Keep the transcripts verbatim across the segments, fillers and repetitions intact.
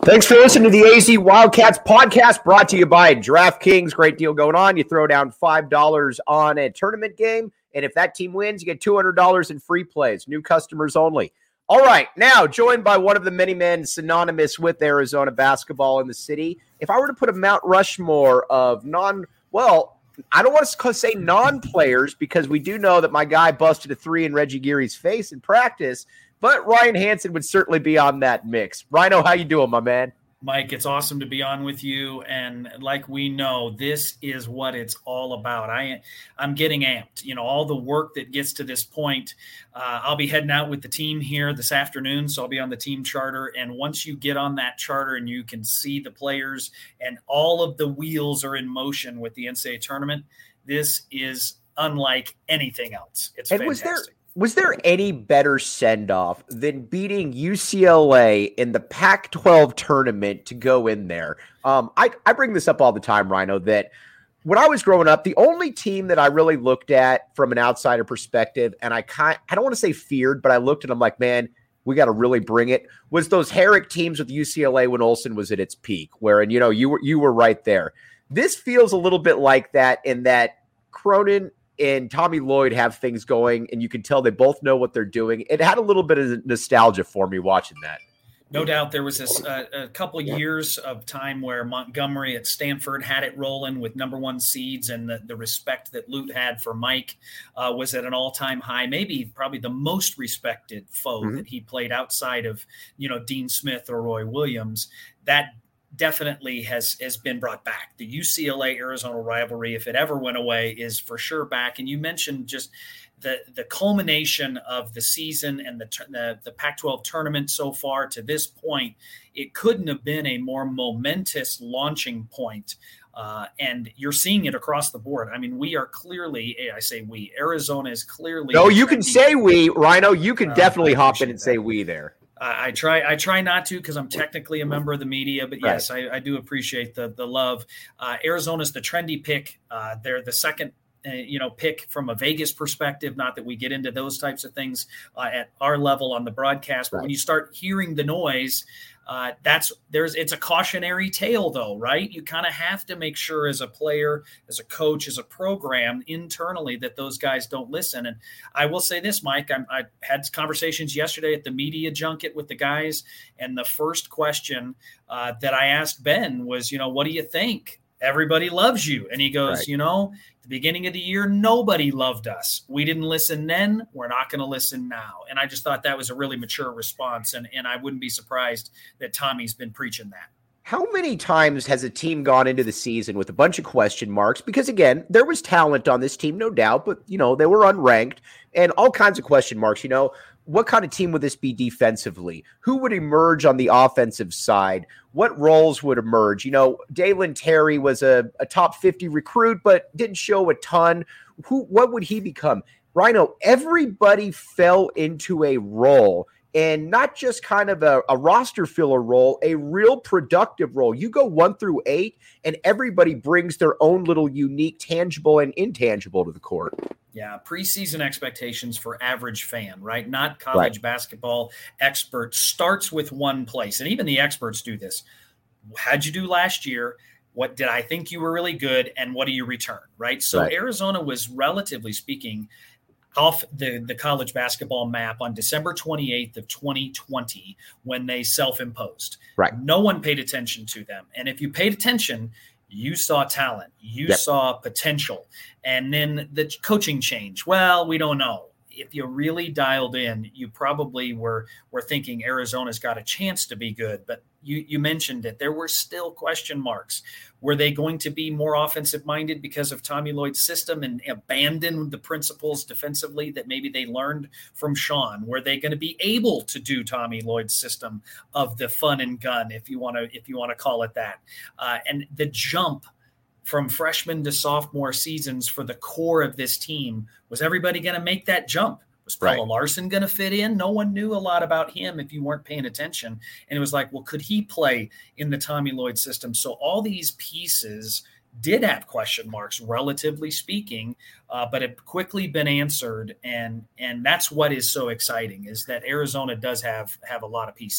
Thanks for listening to the A Z Wildcats podcast, brought to you by DraftKings. Great deal going on. You throw down five dollars on a tournament game, and if that team wins, you get two hundred dollars in free plays. New customers only. All right, now joined by one of the many men synonymous with Arizona basketball in the city. If I were to put a Mount Rushmore of non, well, I don't want to say non-players because we do know that my guy busted a three in Reggie Geary's face in practice, but Ryan Hansen would certainly be on that mix. Rhino, how you doing, my man? Mike, it's awesome to be on with you. And like we know, this is what it's all about. I, I'm getting amped. You know, all the work that gets to this point. Uh, I'll be heading out with the team here this afternoon, so I'll be on the team charter. And once you get on that charter and you can see the players and all of the wheels are in motion with the N C double A tournament, this is unlike anything else. It's and fantastic. Was there- Was there any better send-off than beating U C L A in the Pac twelve tournament to go in there? Um, I, I bring this up all the time, Rhino, that when I was growing up, the only team that I really looked at from an outsider perspective, and I kind I don't want to say feared, but I looked at them like, man, we got to really bring it, was those Herrick teams with U C L A when Olsen was at its peak, where, and you know, you were, you were right there. This feels a little bit like that in that Cronin and Tommy Lloyd have things going, and you can tell they both know what they're doing. It had a little bit of nostalgia for me watching that. No doubt there was this, uh, a couple of years of time where Montgomery at Stanford had it rolling with number one seeds, and the, the respect that Lute had for Mike uh, was at an all-time high, maybe probably the most respected foe mm-hmm. that he played outside of, you know, Dean Smith or Roy Williams. That definitely has has been brought back. The U C L A Arizona rivalry, if it ever went away, is for sure back. And you mentioned just the the culmination of the season and the the, the Pac twelve tournament so far to this point. It couldn't have been a more momentous launching point. Uh, and you're seeing it across the board. I mean, we are clearly, I say we, Arizona is clearly. No, you can say we, Rhino. You can uh, definitely hop in and that. say we there. I try I try not to because I'm technically a member of the media, but yes, right. I, I do appreciate the the love. Uh, Arizona's the trendy pick. Uh, they're the second, uh, you know, pick from a Vegas perspective. Not that we get into those types of things uh, at our level on the broadcast, but right. when you start hearing the noise, uh, that's there's it's a cautionary tale, though, right? You kind of have to make sure as a player, as a coach, as a program internally that those guys don't listen. And I will say this, Mike, I'm, I had conversations yesterday at the media junket with the guys, and the first question uh, that I asked Ben was, you know, what do you think? Everybody loves you. And he goes, right. you know, the beginning of the year, nobody loved us. We didn't listen then. We're not going to listen now. And I just thought that was a really mature response. And, and I wouldn't be surprised that Tommy's been preaching that. How many times has a team gone into the season with a bunch of question marks? Because, again, there was talent on this team, no doubt, but, you know, they were unranked and all kinds of question marks. You know, what kind of team would this be defensively? Who would emerge on the offensive side? What roles would emerge? You know, Dalen Terry was a, a top fifty recruit, but didn't show a ton. Who? What would he become? Rhino, everybody fell into a role. And not just kind of a, a roster filler role, a real productive role. You go one through eight, and everybody brings their own little unique tangible and intangible to the court. Yeah, preseason expectations for average fan, right? Not college right. basketball experts starts with one place. And even the experts do this. How'd you do last year? What did I think you were really good? And what do you return, right? So right. Arizona was, relatively speaking, off the, the college basketball map on December twenty-eighth of twenty twenty when they self-imposed. Right. No one paid attention to them. And if you paid attention, you saw talent, you yep. saw potential. And then the coaching change. Well, we don't know. If you really dialed in, you probably were were thinking Arizona's got a chance to be good. But you, you mentioned it. There were still question marks. Were they going to be more offensive-minded because of Tommy Lloyd's system and abandon the principles defensively that maybe they learned from Sean? Were they going to be able to do Tommy Lloyd's system of the fun and gun, if you want to if you want to call it that? Uh, and the jump from freshman to sophomore seasons for the core of this team, was everybody going to make that jump? Was Pelle right. Larsson going to fit in? No one knew a lot about him if you weren't paying attention. And it was like, well, could he play in the Tommy Lloyd system? So all these pieces did have question marks, relatively speaking, uh, but have quickly been answered. And and that's what is so exciting, is that Arizona does have have a lot of pieces.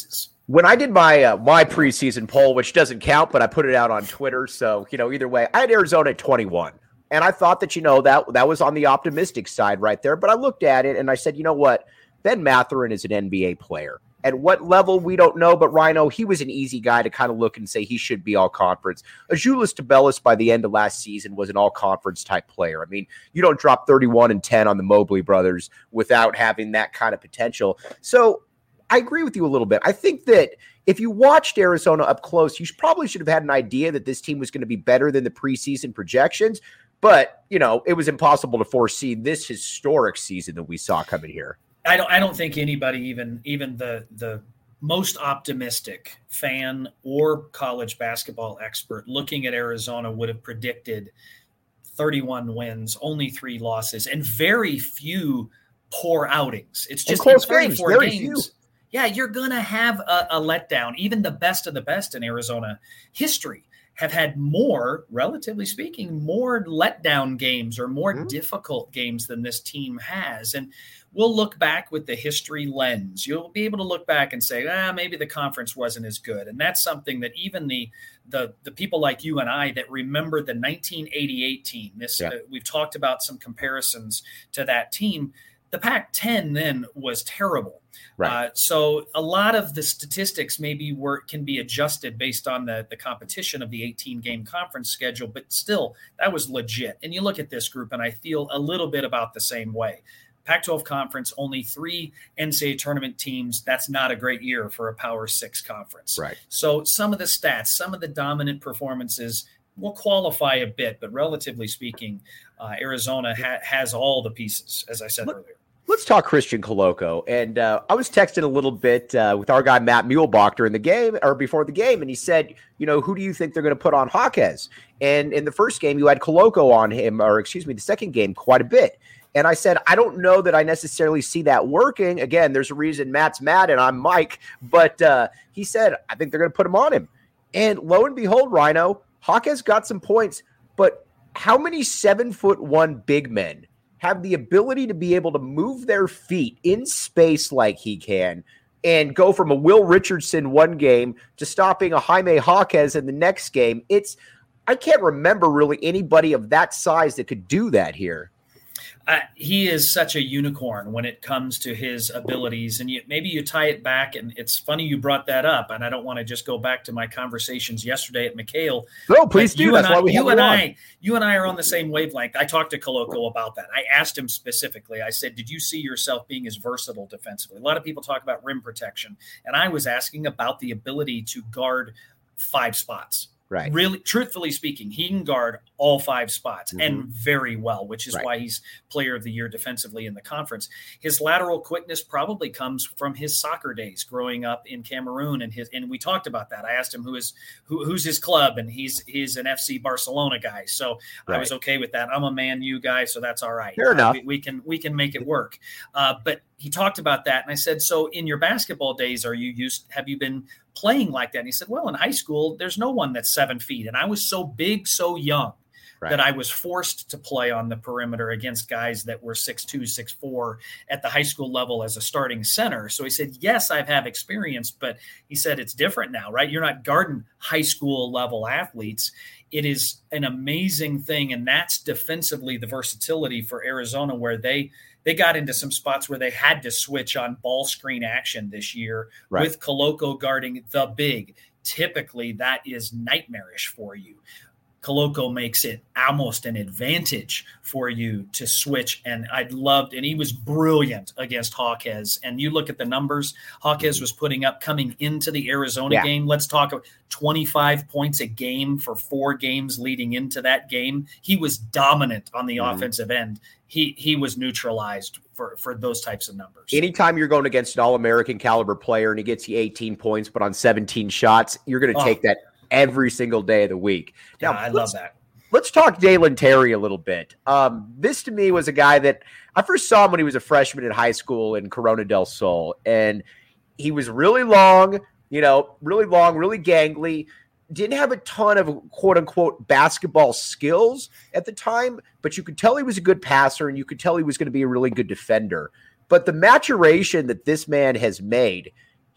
When I did my uh, my preseason poll, which doesn't count, but I put it out on Twitter, so you know, either way, I had Arizona at twenty-one, and I thought that you know that that was on the optimistic side right there. But I looked at it and I said, you know what, Ben Mathurin is an N B A player. At what level, we don't know, but Rhino, he was an easy guy to kind of look and say he should be all-conference. Azuolas Tubelis, by the end of last season, was an all-conference type player. I mean, you don't drop thirty-one and ten on the Mobley brothers without having that kind of potential. So I agree with you a little bit. I think that if you watched Arizona up close, you probably should have had an idea that this team was going to be better than the preseason projections. But, you know, it was impossible to foresee this historic season that we saw coming here. I don't I don't think anybody, even even the the most optimistic fan or college basketball expert looking at Arizona would have predicted thirty-one wins, only three losses, and very few poor outings. It's just in thirty-four games. games yeah, you're going to have a, a letdown. Even the best of the best in Arizona history have had more, relatively speaking, more letdown games or more mm-hmm. difficult games than this team has. And we'll look back with the history lens. You'll be able to look back and say, ah, maybe the conference wasn't as good. And that's something that even the the the people like you and I that remember the nineteen eighty-eight team, this yeah. uh, we've talked about some comparisons to that team. The Pac ten then was terrible. Right. Uh, so a lot of the statistics maybe were can be adjusted based on the, the competition of the eighteen-game conference schedule, but still, that was legit. And you look at this group, and I feel a little bit about the same way. Pac twelve conference, only three N C double A tournament teams. That's not a great year for a Power Six conference. Right. So some of the stats, some of the dominant performances will qualify a bit, but relatively speaking, uh, Arizona ha- has all the pieces, as I said Look- earlier. Let's talk Christian Koloko. And uh, I was texting a little bit uh, with our guy, Matt Muehlbach, during the game or before the game. And he said, you know, who do you think they're going to put on Jaquez? And in the first game, you had Koloko on him, or excuse me, the second game quite a bit. And I said, I don't know that I necessarily see that working. Again, there's a reason Matt's Matt and I'm Mike. But uh, he said, I think they're going to put him on him. And lo and behold, Rhino, Jaquez got some points. But how many seven foot one big men have the ability to be able to move their feet in space like he can and go from a Will Richardson one game to stopping a Jaime Jaquez in the next game? It's I can't remember really anybody of that size that could do that here. Uh, he is such a unicorn when it comes to his abilities. And you, maybe you tie it back, and it's funny you brought that up, and I don't want to just go back to my conversations yesterday at McHale. No, please do. That's why we have you and I, you and I are on the same wavelength. I talked to Koloko about that. I asked him specifically. I said, did you see yourself being as versatile defensively? A lot of people talk about rim protection, and I was asking about the ability to guard five spots. Right. Really, truthfully speaking, he can guard all five spots mm-hmm. and very well, which is right. why he's player of the year defensively in the conference. His lateral quickness probably comes from his soccer days growing up in Cameroon. And his, and we talked about that. I asked him who is, who, who's his club, and he's, he's an F C Barcelona guy. So right. I was okay with that. I'm a Man U guy, so that's all right. Fair uh, enough. We, we can, we can make it work. Uh, but he talked about that. And I said, so in your basketball days, are you used, have you been playing like that? And he said, well, in high school, there's no one that's seven feet. And I was so big, so young right. that I was forced to play on the perimeter against guys that were six two, six four at the high school level as a starting center. So he said, yes, I've had experience, but he said, it's different now, right? You're not guarding high school level athletes. It is an amazing thing. And that's defensively the versatility for Arizona, where they, They got into some spots where they had to switch on ball screen action this year right. with Koloko guarding the big. Typically, that is nightmarish for you. Koloko makes it almost an advantage for you to switch. And I loved, and he was brilliant against Jaquez. And you look at the numbers Jaquez was putting up coming into the Arizona yeah. game. Let's talk about twenty-five points a game for four games leading into that game. He was dominant on the mm-hmm. offensive end. He he was neutralized for, for those types of numbers. Anytime you're going against an All-American caliber player and he gets you eighteen points, but on seventeen shots, you're going to oh. take that every single day of the week. Now, yeah, I love that. Let's talk Dalen Terry a little bit. Um, this to me was a guy that I first saw him when he was a freshman in high school in Corona del Sol. And he was really long, you know, really long, really gangly. Didn't have a ton of quote unquote basketball skills at the time, but you could tell he was a good passer and you could tell he was going to be a really good defender. But the maturation that this man has made,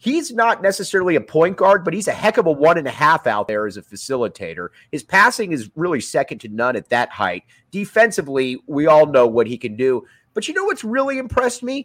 he's not necessarily a point guard, but he's a heck of a one and a half out there as a facilitator. His passing is really second to none at that height. Defensively, we all know what he can do. But you know what's really impressed me?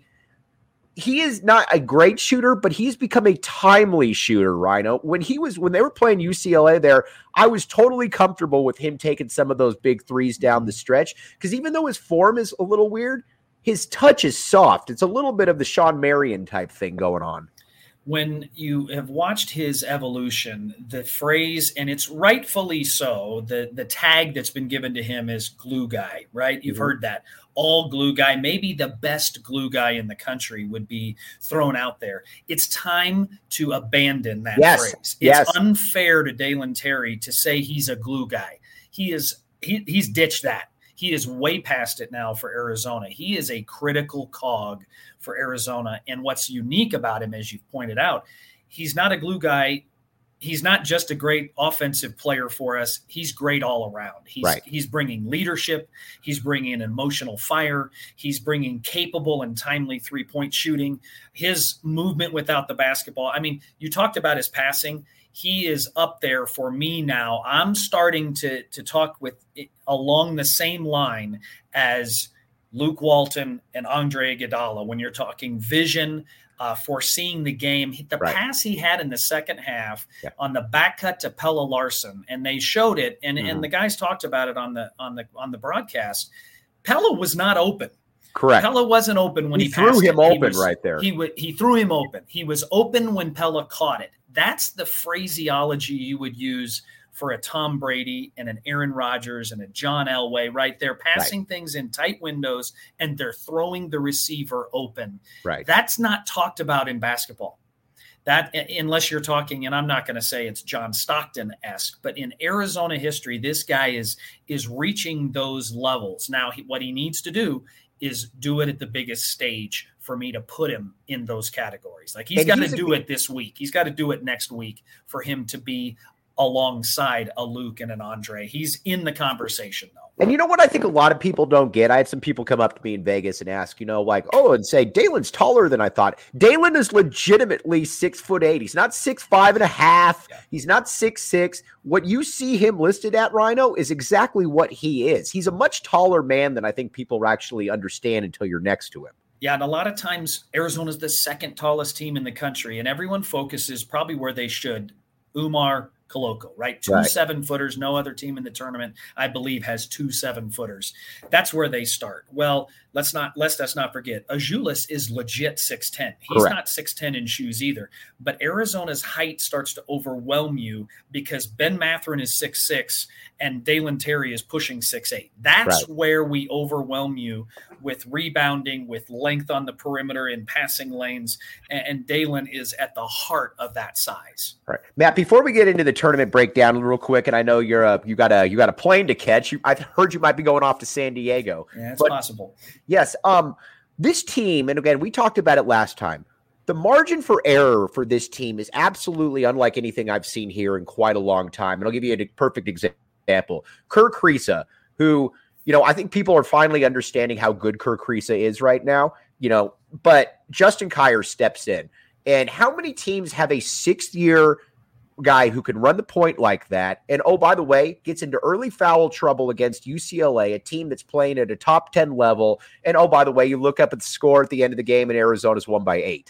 He is not a great shooter, but he's become a timely shooter, Rhino. When he was when they were playing U C L A there, I was totally comfortable with him taking some of those big threes down the stretch, because even though his form is a little weird, his touch is soft. It's a little bit of the Sean Marion type thing going on. When you have watched his evolution, the phrase, and it's rightfully so, the, the tag that's been given to him is glue guy, right? You've mm-hmm. heard that. All glue guy, maybe the best glue guy in the country would be thrown out there. It's time to abandon that yes. phrase. It's yes. unfair to Dalen Terry to say he's a glue guy. He is he, he's ditched that. He is way past it now for Arizona. He is a critical cog for Arizona. And what's unique about him, as you've pointed out, he's not a glue guy. He's not just a great offensive player for us. He's great all around. He's right. he's bringing leadership. He's bringing emotional fire. He's bringing capable and timely three-point shooting. His movement without the basketball. I mean, you talked about his passing. He is up there for me now. I'm starting to, to talk with along the same line as Luke Walton and Andre Iguodala when you're talking vision, Uh, foreseeing the game. The right. pass he had in the second half yeah. on the back cut to Pelle Larsson, and they showed it, and, mm-hmm. and the guys talked about it on the on the on the broadcast. Pelle was not open. Correct. Pelle wasn't open when he, he threw him it. open he was, right there. He w- he threw him open. He was open when Pelle caught it. That's the phraseology you would use for a Tom Brady and an Aaron Rodgers and a John Elway, right? They're passing right. things in tight windows and they're throwing the receiver open. Right. That's not talked about in basketball. That, unless you're talking, and I'm not going to say it's John Stockton-esque, but in Arizona history, this guy is is reaching those levels. Now, he, what he needs to do is do it at the biggest stage for me to put him in those categories. Like he's got to do a, it this week. He's got to do it next week for him to be alongside a Luke and an Andre. He's in the conversation, though. And you know what I think a lot of people don't get? I had some people come up to me in Vegas and ask, you know, like, oh, and say, Dalen's taller than I thought. Dalen is legitimately six foot eight. He's not six five and a half. Yeah. He's not six six. What you see him listed at, Rhino, is exactly what he is. He's a much taller man than I think people actually understand until you're next to him. Yeah, and a lot of times Arizona's the second tallest team in the country, and everyone focuses probably where they should. Umar Koloko, right? Two right. seven footers. No other team in the tournament, I believe, has two seven footers. That's where they start. Well, let's not let's let's not forget, Azuolas is legit six ten. He's Correct. Not six ten in shoes either. But Arizona's height starts to overwhelm you because Ben Mathurin is six six and Dalen Terry is pushing six eight. That's right. where we overwhelm you with rebounding, with length on the perimeter in passing lanes, and, and Dalen is at the heart of that size. Right, Matt. Before we get into the tournament breakdown, real quick, and I know you're a you got a you got a plane to catch. You, I've heard you might be going off to San Diego. Yeah, it's possible. Yes. Um, this team, and again, we talked about it last time. The margin for error for this team is absolutely unlike anything I've seen here in quite a long time. And I'll give you a perfect example. Kerr Kriisa, who, you know, I think people are finally understanding how good Kerr Kriisa is right now, you know, but Justin Kier steps in. And how many teams have a sixth year guy who can run the point like that? And, oh, by the way, gets into early foul trouble against U C L A, a team that's playing at a top ten level. And, oh, by the way, you look up at the score at the end of the game and Arizona's won by eight.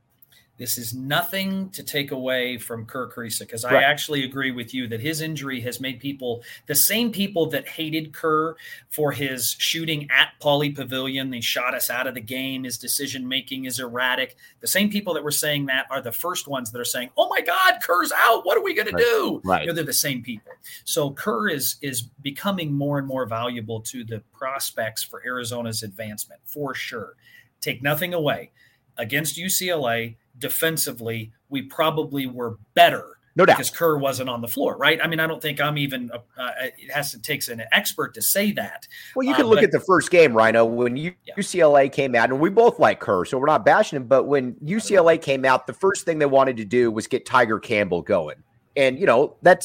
This is nothing to take away from Kerr Kriisa, because right. I actually agree with you that his injury has made people, the same people that hated Kerr for his shooting at Pauley Pavilion, they shot us out of the game, his decision-making is erratic. The same people that were saying that are the first ones that are saying, oh my God, Kerr's out, what are we going right. to do? Right. You know, they're the same people. So Kerr is, is becoming more and more valuable to the prospects for Arizona's advancement, for sure. Take nothing away. Against U C L A, defensively, we probably were better. No doubt. Because Kerr wasn't on the floor, right? I mean, I don't think I'm even uh, – it has to take an expert to say that. Well, you can uh, look but, at the first game, Rhino, when you, yeah. U C L A came out, and we both like Kerr, so we're not bashing him, but when U C L A came out, the first thing they wanted to do was get Tiger Campbell going. And, you know, that's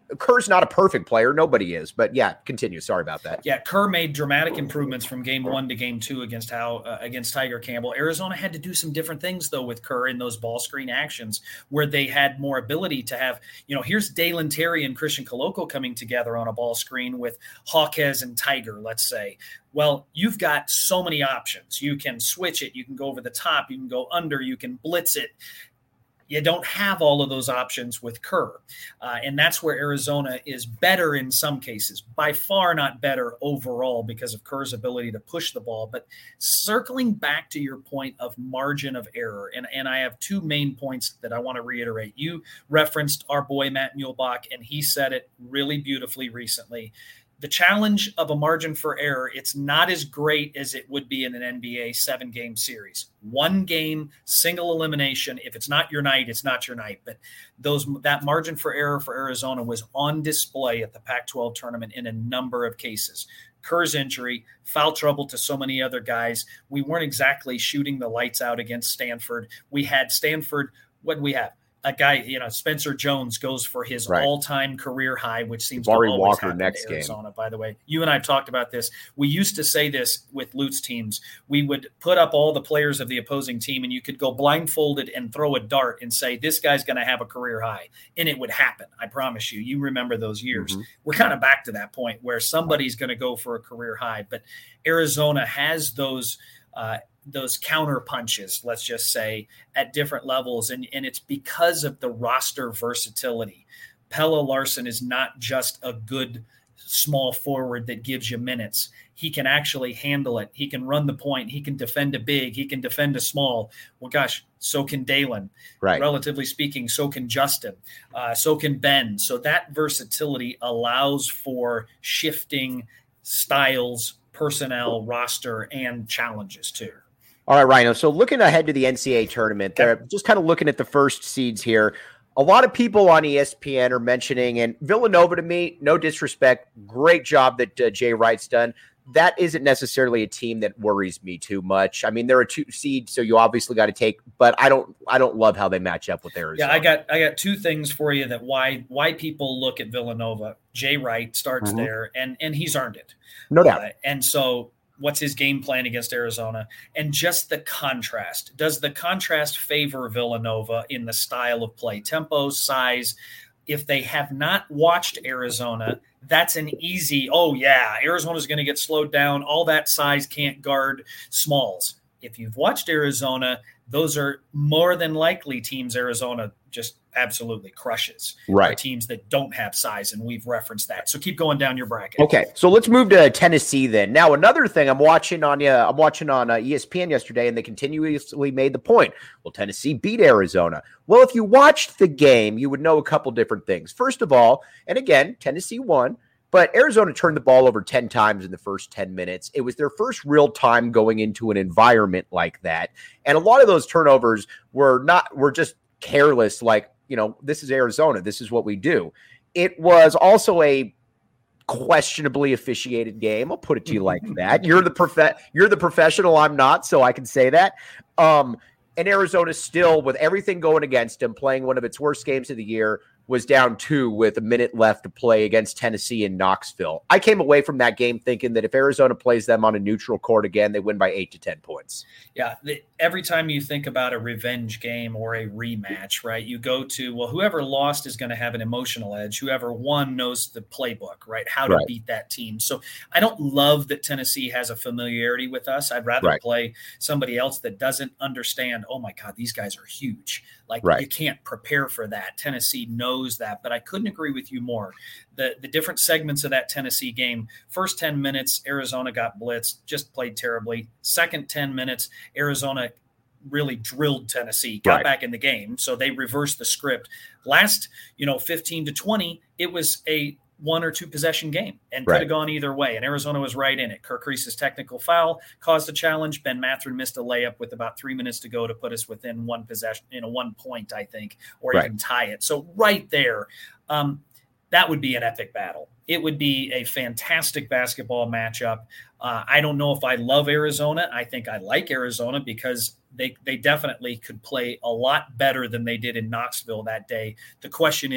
Kerr's not a perfect player. Nobody is. But yeah, continue. Sorry about that. Yeah, Kerr made dramatic improvements from game one to game two against how uh, against Tiger Campbell. Arizona had to do some different things, though, with Kerr in those ball screen actions where they had more ability to have, you know, here's Dalen Terry and Christian Coloco coming together on a ball screen with Hawkes and Tiger, let's say. Well, you've got so many options. You can switch it. You can go over the top. You can go under. You can blitz it. You don't have all of those options with Kerr. Uh, and that's where Arizona is better in some cases, by far not better overall because of Kerr's ability to push the ball. But circling back to your point of margin of error, and, and I have two main points that I want to reiterate. You referenced our boy Matt Muehlbach, and he said it really beautifully recently. The challenge of a margin for error, it's not as great as it would be in an N B A seven-game series. One game, single elimination. If it's not your night, it's not your night. But those that margin for error for Arizona was on display at the Pac twelve tournament in a number of cases. Kerr's injury, foul trouble to so many other guys. We weren't exactly shooting the lights out against Stanford. We had Stanford, what did we have? A guy, you know, Spencer Jones goes for his right. all-time career high, which seems Barry to always Walker happen next to Arizona, game. By the way. You and I have talked about this. We used to say this with Lute's teams. We would put up all the players of the opposing team, and you could go blindfolded and throw a dart and say, this guy's going to have a career high. And it would happen. I promise you. You remember those years. Mm-hmm. We're kind of back to that point where somebody's going to go for a career high. But Arizona has those uh, – those counter punches, let's just say, at different levels. And, and it's because of the roster versatility. Pelle Larsson is not just a good small forward that gives you minutes. He can actually handle it. He can run the point. He can defend a big. He can defend a small. Well, gosh, so can Dalen. Right. Relatively speaking, so can Justin. Uh, so can Ben. So that versatility allows for shifting styles, personnel, roster, and challenges too. All right, Rhino. So looking ahead to the N C A A tournament, they're just kind of looking at the first seeds here. A lot of people on E S P N are mentioning, and Villanova, to me, no disrespect, great job that uh, Jay Wright's done. That isn't necessarily a team that worries me too much. I mean, they're a two seed, so you obviously got to take, but I don't, I don't love how they match up with Arizona. Yeah, I got, I got two things for you that why, why people look at Villanova. Jay Wright starts mm-hmm. there, and and he's earned it, no doubt. Uh, and so. What's his game plan against Arizona? And just the contrast. Does the contrast favor Villanova in the style of play, tempo, size? If they have not watched Arizona, that's an easy, oh, yeah, Arizona's going to get slowed down. All that size can't guard smalls. If you've watched Arizona, those are more than likely teams Arizona just absolutely crushes. Right. Are teams that don't have size, and we've referenced that. So keep going down your bracket. Okay, so let's move to Tennessee then. Now, another thing I'm watching on uh, I'm watching on uh, E S P N yesterday, and they continuously made the point. Well, Tennessee beat Arizona. Well, if you watched the game, you would know a couple different things. First of all, and again, Tennessee won. But Arizona turned the ball over ten times in the first ten minutes. It was their first real time going into an environment like that. And a lot of those turnovers were not, were just careless, like, you know, this is Arizona. This is what we do. It was also a questionably officiated game. I'll put it to you like that. You're the prof- you're the professional. I'm not, so I can say that. Um, and Arizona still, with everything going against him, playing one of its worst games of the year, was down two with a minute left to play against Tennessee in Knoxville. I came away from that game thinking that if Arizona plays them on a neutral court again, they win by eight to ten points. Yeah, the, every time you think about a revenge game or a rematch, right, you go to, well, whoever lost is going to have an emotional edge. Whoever won knows the playbook, right, how to right. beat that team. So I don't love that Tennessee has a familiarity with us. I'd rather right. play somebody else that doesn't understand, oh, my God, these guys are huge. Like, right. you can't prepare for that. Tennessee knows that, but I couldn't agree with you more. The the different segments of that Tennessee game, first ten minutes, Arizona got blitzed, just played terribly. Second ten minutes, Arizona really drilled Tennessee, got right. back in the game, so they reversed the script. Last, you know, fifteen to twenty, it was a one or two possession game and could right. have gone either way. And Arizona was right in it. Kirk Reese's technical foul caused a challenge. Ben Mathurin missed a layup with about three minutes to go to put us within one possession, you know, one point, I think, or right. even tie it. So right there, um, that would be an epic battle. It would be a fantastic basketball matchup. Uh, I don't know if I love Arizona. I think I like Arizona because they they definitely could play a lot better than they did in Knoxville that day. The question is,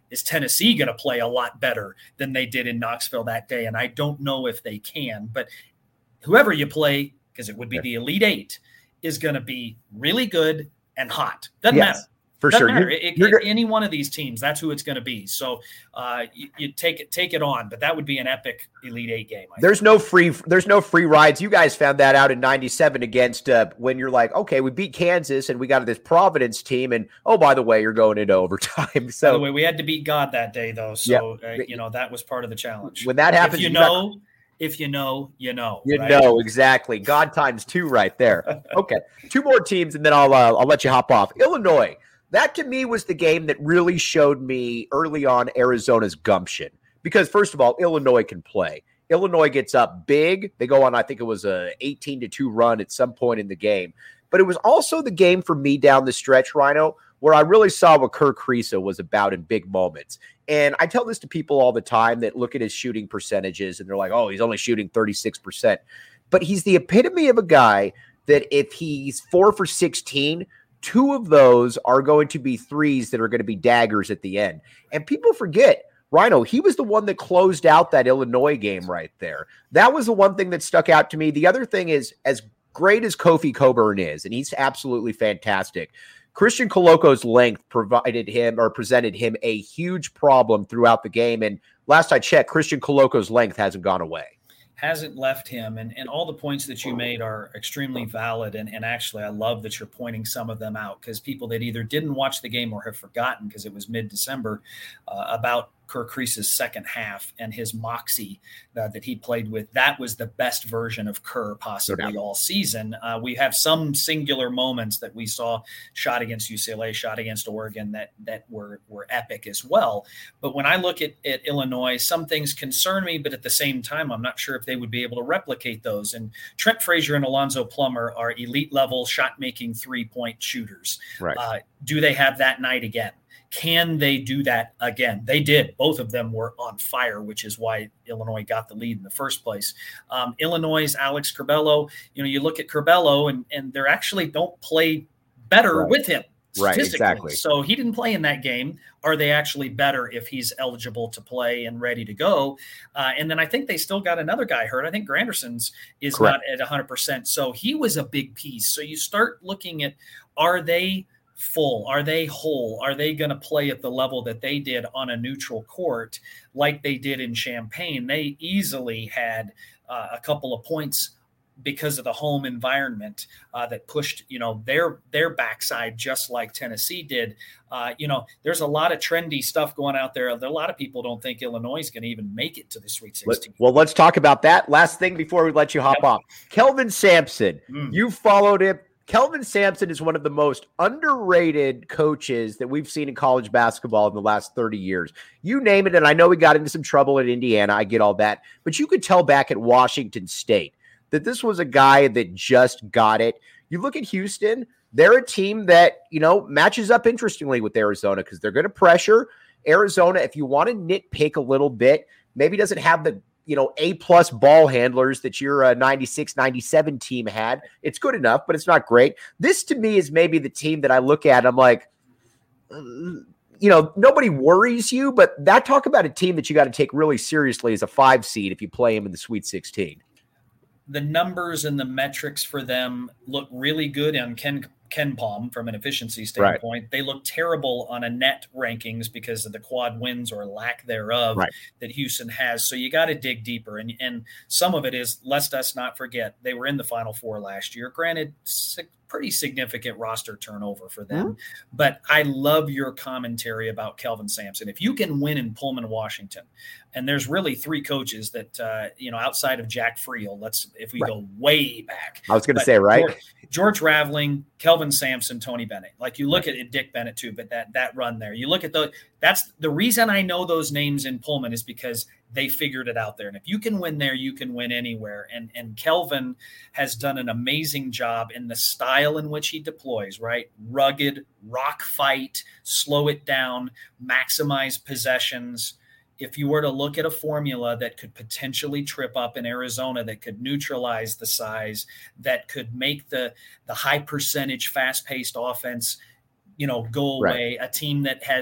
is Tennessee going to play a lot better than they did in Knoxville that day? And I don't know if they can, but whoever you play, because it would be yeah. the Elite Eight, is going to be really good and hot. Doesn't yes. matter. For Doesn't sure. Matter. You're, it, you're, any one of these teams, that's who it's going to be. So uh, you, you take it, take it on, but that would be an epic Elite Eight game. I there's think. no free, there's no free rides. You guys found that out in ninety-seven against uh, when you're like, okay, we beat Kansas and we got this Providence team. And oh, by the way, you're going into overtime. So by the way, we had to beat God that day though. So, yeah. uh, you know, that was part of the challenge. When that happens, if you, you know, got- if you know, you know, you right? know, exactly. God times two right there. Okay. Two more teams and then I'll, uh, I'll let you hop off. Illinois. That, to me, was the game that really showed me early on Arizona's gumption. Because, first of all, Illinois can play. Illinois gets up big. They go on, I think it was a eighteen to two run at some point in the game. But it was also the game for me down the stretch, Rhino, where I really saw what Kerr Kriisa was about in big moments. And I tell this to people all the time that look at his shooting percentages, and they're like, oh, he's only shooting thirty-six percent. But he's the epitome of a guy that if he's four for sixteen – two of those are going to be threes that are going to be daggers at the end. And people forget, Rhino, he was the one that closed out that Illinois game right there. That was the one thing that stuck out to me. The other thing is, as great as Kofi Coburn is, and he's absolutely fantastic, Christian Coloco's length provided him or presented him a huge problem throughout the game. And last I checked, Christian Coloco's length hasn't gone away. Hasn't left him. And, and all the points that you made are extremely valid. And, and actually, I love that you're pointing some of them out because people that either didn't watch the game or have forgotten because it was mid-December uh, about Kerr Kriisa's second half and his moxie uh, that he played with. That was the best version of Kerr possibly all season. Uh, we have some singular moments that we saw shot against U C L A, shot against Oregon that that were were epic as well. But when I look at, at Illinois, some things concern me, but at the same time, I'm not sure if they would be able to replicate those. And Trent Frazier and Alonzo Plummer are elite level shot making three point shooters. Right. Uh, do they have that night again? Can they do that again? They did. Both of them were on fire, which is why Illinois got the lead in the first place. Um, Illinois' Alex Curbelo, you know, you look at Curbelo and, and they actually don't play better right. with him. Right, exactly. So he didn't play in that game. Are they actually better if he's eligible to play and ready to go? Uh, and then I think they still got another guy hurt. I think Granderson's is Correct. Not at one hundred percent. So he was a big piece. So you start looking at, are they – full? Are they whole? Are they going to play at the level that they did on a neutral court like they did in Champaign? They easily had uh, a couple of points because of the home environment uh, that pushed, you know, their their backside just like Tennessee did. Uh, you know, there's a lot of trendy stuff going out there. A lot of people don't think Illinois is going to even make it to the Sweet sixteen. Well, let's talk about that. Last thing before we let you hop yep. off. Kelvin Sampson, mm. you followed him. Kelvin Sampson is one of the most underrated coaches that we've seen in college basketball in the last thirty years. You name it, and I know he got into some trouble at Indiana. I get all that. But you could tell back at Washington State that this was a guy that just got it. You look at Houston, they're a team that, you know, matches up interestingly with Arizona because they're going to pressure. Arizona, if you want to nitpick a little bit, maybe doesn't have the you know, A-plus ball handlers that your uh, ninety-six ninety-seven team had. It's good enough, but it's not great. This, to me, is maybe the team that I look at. I'm like, uh, you know, nobody worries you, but that talk about a team that you got to take really seriously as a five seed if you play them in the Sweet sixteen. The numbers and the metrics for them look really good on Ken Ken Palm from an efficiency standpoint. Right. They look terrible on a net rankings because of the quad wins or lack thereof right. that Houston has. So you got to dig deeper. And, and some of it is, lest us not forget, they were in the Final Four last year. Granted, pretty significant roster turnover for them. Mm-hmm. But I love your commentary about Kelvin Sampson. If you can win in Pullman, Washington, and there's really three coaches that, uh, you know, outside of Jack Friel, let's, if we right. go way back. I was going to say, right. George, George Raveling, Kelvin Sampson, Tony Bennett. Like you look right. at Dick Bennett too, but that, that run there, you look at the, that's the reason I know those names in Pullman is because they figured it out there. And if you can win there, you can win anywhere. And, and Kelvin has done an amazing job in the style in which he deploys, right? Rugged, rock fight, slow it down, maximize possessions. If you were to look at a formula that could potentially trip up in Arizona, that could neutralize the size, that could make the, the high percentage, fast-paced offense, you know, go away, right. a team that has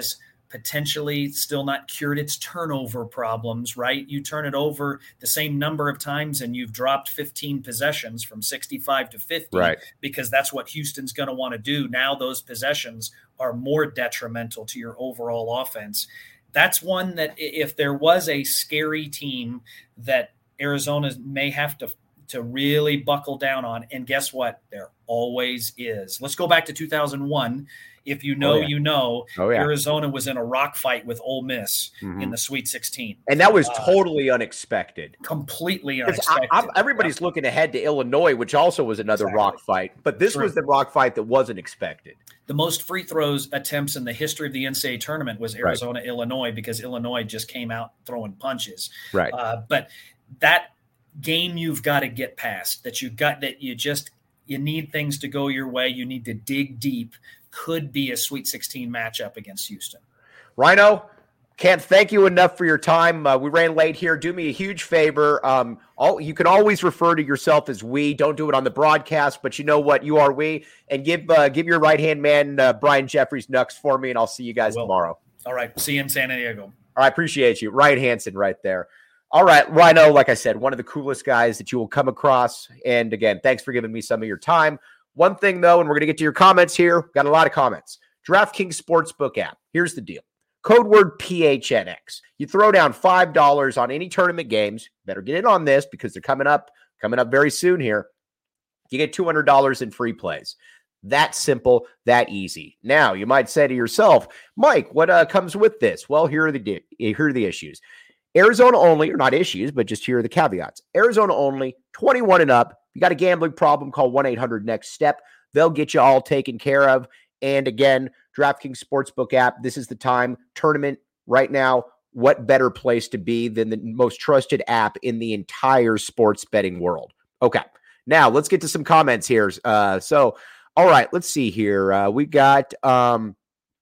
potentially still not cured its turnover problems, right? You turn it over the same number of times and you've dropped fifteen possessions from sixty-five to fifty, right, because that's what Houston's going to want to do. Now those possessions are more detrimental to your overall offense. That's one that if there was a scary team that Arizona may have to to really buckle down on, and guess what? There always is. Let's go back to two thousand one. If you know, oh, yeah. you know, oh, yeah. Arizona was in a rock fight with Ole Miss mm-hmm. in the Sweet sixteen. And that was uh, totally unexpected. Completely unexpected. I, I, everybody's yeah. looking ahead to Illinois, which also was another exactly. rock fight. But this True. was the rock fight that wasn't expected. The most free throws attempts in the history of the N C double A tournament was Arizona, right. Illinois, because Illinois just came out throwing punches. Right. Uh, but that game you've got to get past, that you got that you just you need things to go your way. You need to dig deep. Could be a Sweet sixteen matchup against Houston. Rhino, can't thank you enough for your time. Uh, we ran late here. Do me a huge favor. Um, all, you can always refer to yourself as we. Don't do it on the broadcast, but you know what? You are we. And give uh, give your right-hand man, uh, Brian Jeffries, Nux for me, and I'll see you guys tomorrow. All right. See you in San Diego. All right. Appreciate you. Ryan Hansen right there. All right. Rhino, like I said, one of the coolest guys that you will come across. And again, thanks for giving me some of your time. One thing, though, and we're going to get to your comments here. Got a lot of comments. DraftKings Sportsbook app. Here's the deal. Code word P H N X. You throw down five dollars on any tournament games. Better get in on this because they're coming up, coming up very soon here. You get two hundred dollars in free plays. That simple, that easy. Now, you might say to yourself, Mike, what uh, comes with this? Well, here are the di- here are the issues. Arizona only, or not issues, but just here are the caveats. Arizona only, twenty-one and up. You got a gambling problem, call one eight hundred next step. They'll get you all taken care of. And again, DraftKings Sportsbook app, this is the time. Tournament right now, what better place to be than the most trusted app in the entire sports betting world? Okay, now let's get to some comments here. Uh, so, all right, let's see here. Uh, we got, um,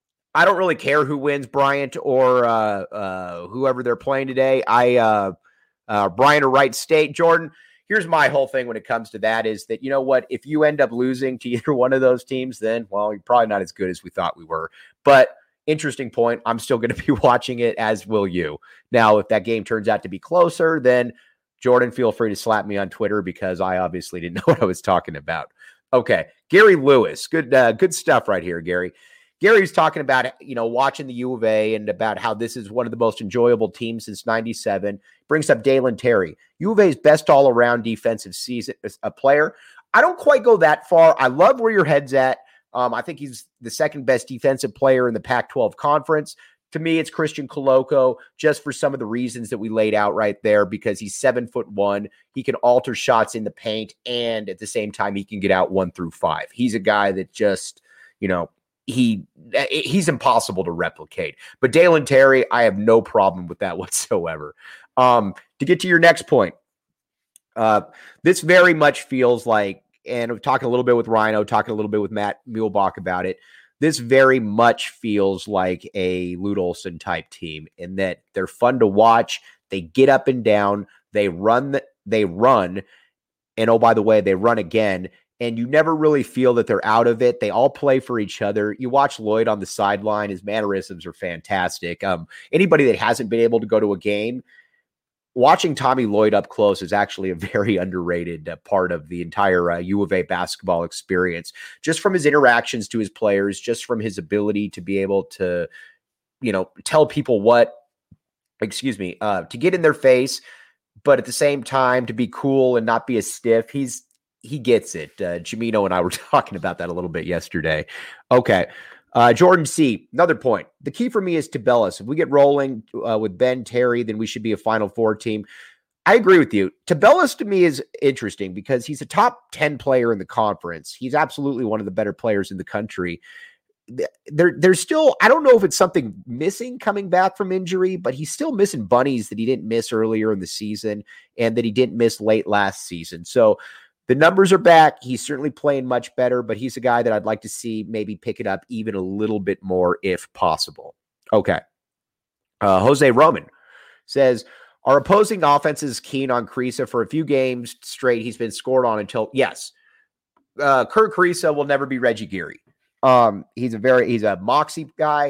I don't really care who wins, Bryant or uh, uh, whoever they're playing today. I, uh, uh, Bryant or Wright State, Jordan. Here's my whole thing when it comes to that is that, you know what, if you end up losing to either one of those teams, then, well, you're probably not as good as we thought we were. But interesting point. I'm still going to be watching it, as will you. Now, if that game turns out to be closer, then Jordan, feel free to slap me on Twitter because I obviously didn't know what I was talking about. Okay. Gary Lewis. Good, uh, good stuff right here, Gary. Gary's talking about, you know, watching the U of A and about how this is one of the most enjoyable teams since ninety-seven. Brings up Dalen Terry, U of A's best all-around defensive season, a player. I don't quite go that far. I love where your head's at. Um, I think he's the second best defensive player in the Pac twelve conference. To me, it's Christian Koloko, just for some of the reasons that we laid out right there, because he's seven foot one. He can alter shots in the paint, and at the same time, he can get out one through five. He's a guy that just, you know, He he's impossible to replicate. But Dalen Terry, I have no problem with that whatsoever. Um, to get to your next point, uh, this very much feels like, and I'm talking a little bit with Rhino, talking a little bit with Matt Muehlbach about it. This very much feels like a Lute Olson type team in that they're fun to watch. They get up and down. They run. The, they run. And oh, by the way, they run again. And you never really feel that they're out of it. They all play for each other. You watch Lloyd on the sideline. His mannerisms are fantastic. Um, anybody that hasn't been able to go to a game, watching Tommy Lloyd up close is actually a very underrated uh, part of the entire uh, U of A basketball experience. Just from his interactions to his players, just from his ability to be able to, you know, tell people what, excuse me, uh, to get in their face, but at the same time to be cool and not be as stiff. He's He gets it. Uh, Jamino and I were talking about that a little bit yesterday. Okay. Uh, Jordan C., another point. The key for me is Tubelis. If we get rolling uh, with Ben Terry, then we should be a Final Four team. I agree with you. Tubelis to me is interesting because he's a top ten player in the conference. He's absolutely one of the better players in the country. There, there's still, I don't know if it's something missing coming back from injury, but he's still missing bunnies that he didn't miss earlier in the season and that he didn't miss late last season. So, the numbers are back. He's certainly playing much better, but he's a guy that I'd like to see maybe pick it up even a little bit more if possible. Okay. Uh, Jose Roman says, are opposing offenses keen on Kriisa? For a few games straight, he's been scored on until, yes. Uh, Kirk Kriisa will never be Reggie Geary. Um, he's a very, he's a moxie guy.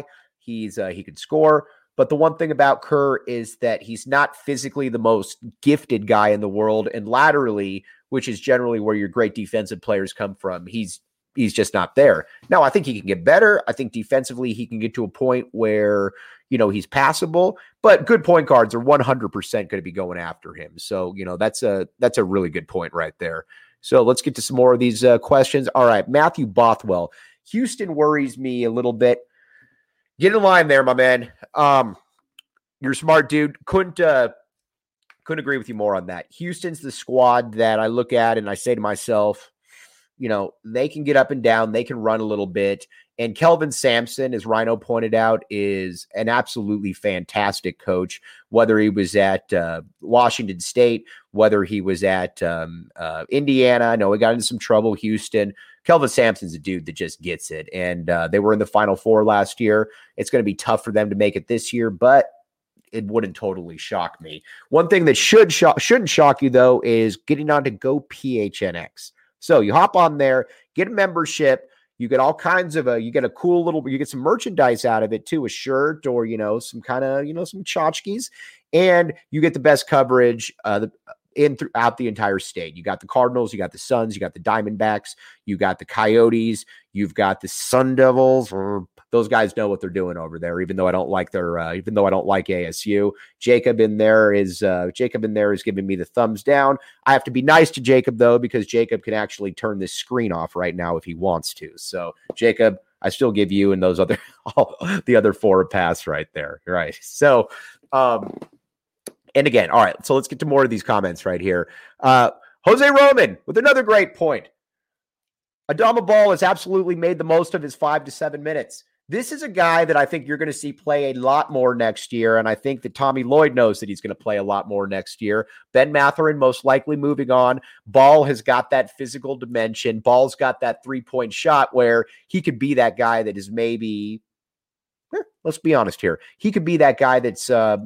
He's uh, he can score. But the one thing about Kerr is that he's not physically the most gifted guy in the world, and laterally, which is generally where your great defensive players come from, he's he's just not there. Now, I think he can get better. I think defensively he can get to a point where, you know, he's passable, but good point guards are one hundred percent going to be going after him. So, you know, that's a that's a really good point right there. So let's get to some more of these uh, questions. All right, Matthew Bothwell. Houston worries me a little bit. Get in line there, my man. Um, you're a smart dude. Couldn't uh, couldn't agree with you more on that. Houston's the squad that I look at and I say to myself, you know, they can get up and down. They can run a little bit. And Kelvin Sampson, as Rhino pointed out, is an absolutely fantastic coach, whether he was at uh, Washington State, whether he was at um, uh, Indiana. I know he got into some trouble, Houston. Kelvin Sampson's a dude that just gets it. And uh, they were in the Final Four last year. It's going to be tough for them to make it this year, but it wouldn't totally shock me. One thing that should shock, shouldn't shock you, though, is getting on to Go P H N X. So you hop on there, get a membership. You get all kinds of a, you get a cool little, you get some merchandise out of it too, a shirt or, you know, some kind of, you know, some tchotchkes, and you get the best coverage uh, the, in throughout the entire state. You got the Cardinals, you got the Suns, you got the Diamondbacks, you got the Coyotes, you've got the Sun Devils. Or those guys know what they're doing over there, even though I don't like their, uh, even though I don't like A S U. Jacob in there is, uh, Jacob in there is giving me the thumbs down. I have to be nice to Jacob though, because Jacob can actually turn this screen off right now if he wants to. So Jacob, I still give you and those other, all, the other four a pass right there. Right. So, um, and again, all right, so let's get to more of these comments right here. Uh, Jose Roman with another great point. Adama Ball has absolutely made the most of his five to seven minutes. This is a guy that I think you're going to see play a lot more next year, and I think that Tommy Lloyd knows that he's going to play a lot more next year. Ben Mathurin most likely moving on. Ball has got that physical dimension. Ball's got that three-point shot where he could be that guy that is maybe, eh, let's be honest here, he could be that guy that's uh,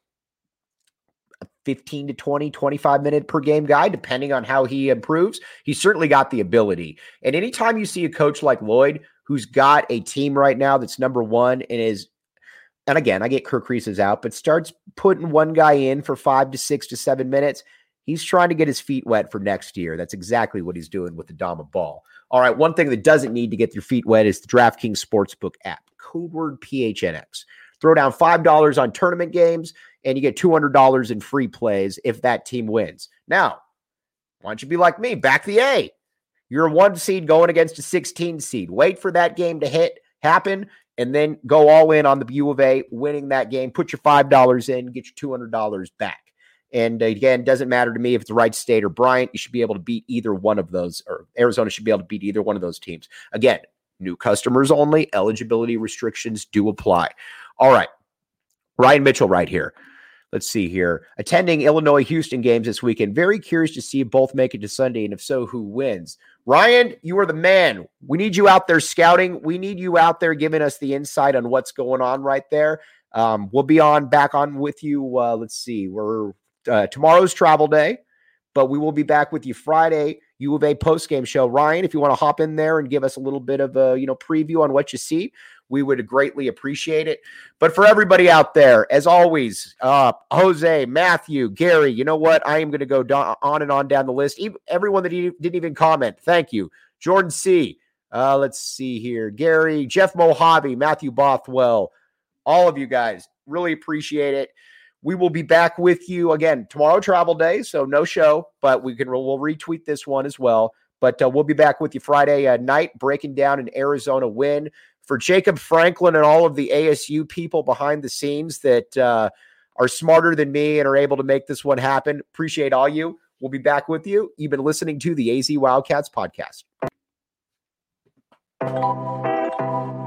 fifteen to twenty, twenty-five minute per game guy, depending on how he improves. He's certainly got the ability. And anytime you see a coach like Lloyd, who's got a team right now that's number one and is, and again, I get Kirk Reese's out, but starts putting one guy in for five to six to seven minutes, he's trying to get his feet wet for next year. That's exactly what he's doing with the Adama Ball. All right, one thing that doesn't need to get your feet wet is the DraftKings Sportsbook app, code word P H N X. Throw down five dollars on tournament games, and you get two hundred dollars in free plays if that team wins. Now, why don't you be like me? Back the A. You're a one seed going against a sixteen seed. Wait for that game to hit, happen, and then go all in on the U of A, winning that game. Put your five dollars in, get your two hundred dollars back. And again, doesn't matter to me if it's Wright State or Bryant. You should be able to beat either one of those, or Arizona should be able to beat either one of those teams. Again, new customers only. Eligibility restrictions do apply. All right. Ryan Mitchell right here. Let's see here. Attending Illinois-Houston games this weekend. Very curious to see if both make it to Sunday, and if so, who wins? Ryan, you are the man. We need you out there scouting. We need you out there giving us the insight on what's going on right there. Um, we'll be on back on with you. Uh, let's see. We're uh, tomorrow's travel day, but we will be back with you Friday, U of A post-game show. Ryan, if you want to hop in there and give us a little bit of a, you know, preview on what you see, we would greatly appreciate it. But for everybody out there, as always, uh, Jose, Matthew, Gary, you know what? I am going to go do- on and on down the list. Even, everyone that e- didn't even comment, thank you. Jordan C. Uh, let's see here. Gary, Jeff Mojave, Matthew Bothwell, all of you guys, really appreciate it. We will be back with you again tomorrow, travel day, so no show, but we can we'll retweet this one as well. But uh, we'll be back with you Friday uh, night, breaking down an Arizona win. For Jacob Franklin and all of the A S U people behind the scenes that uh, are smarter than me and are able to make this one happen, appreciate all you. We'll be back with you. You've been listening to the A Z Wildcats podcast.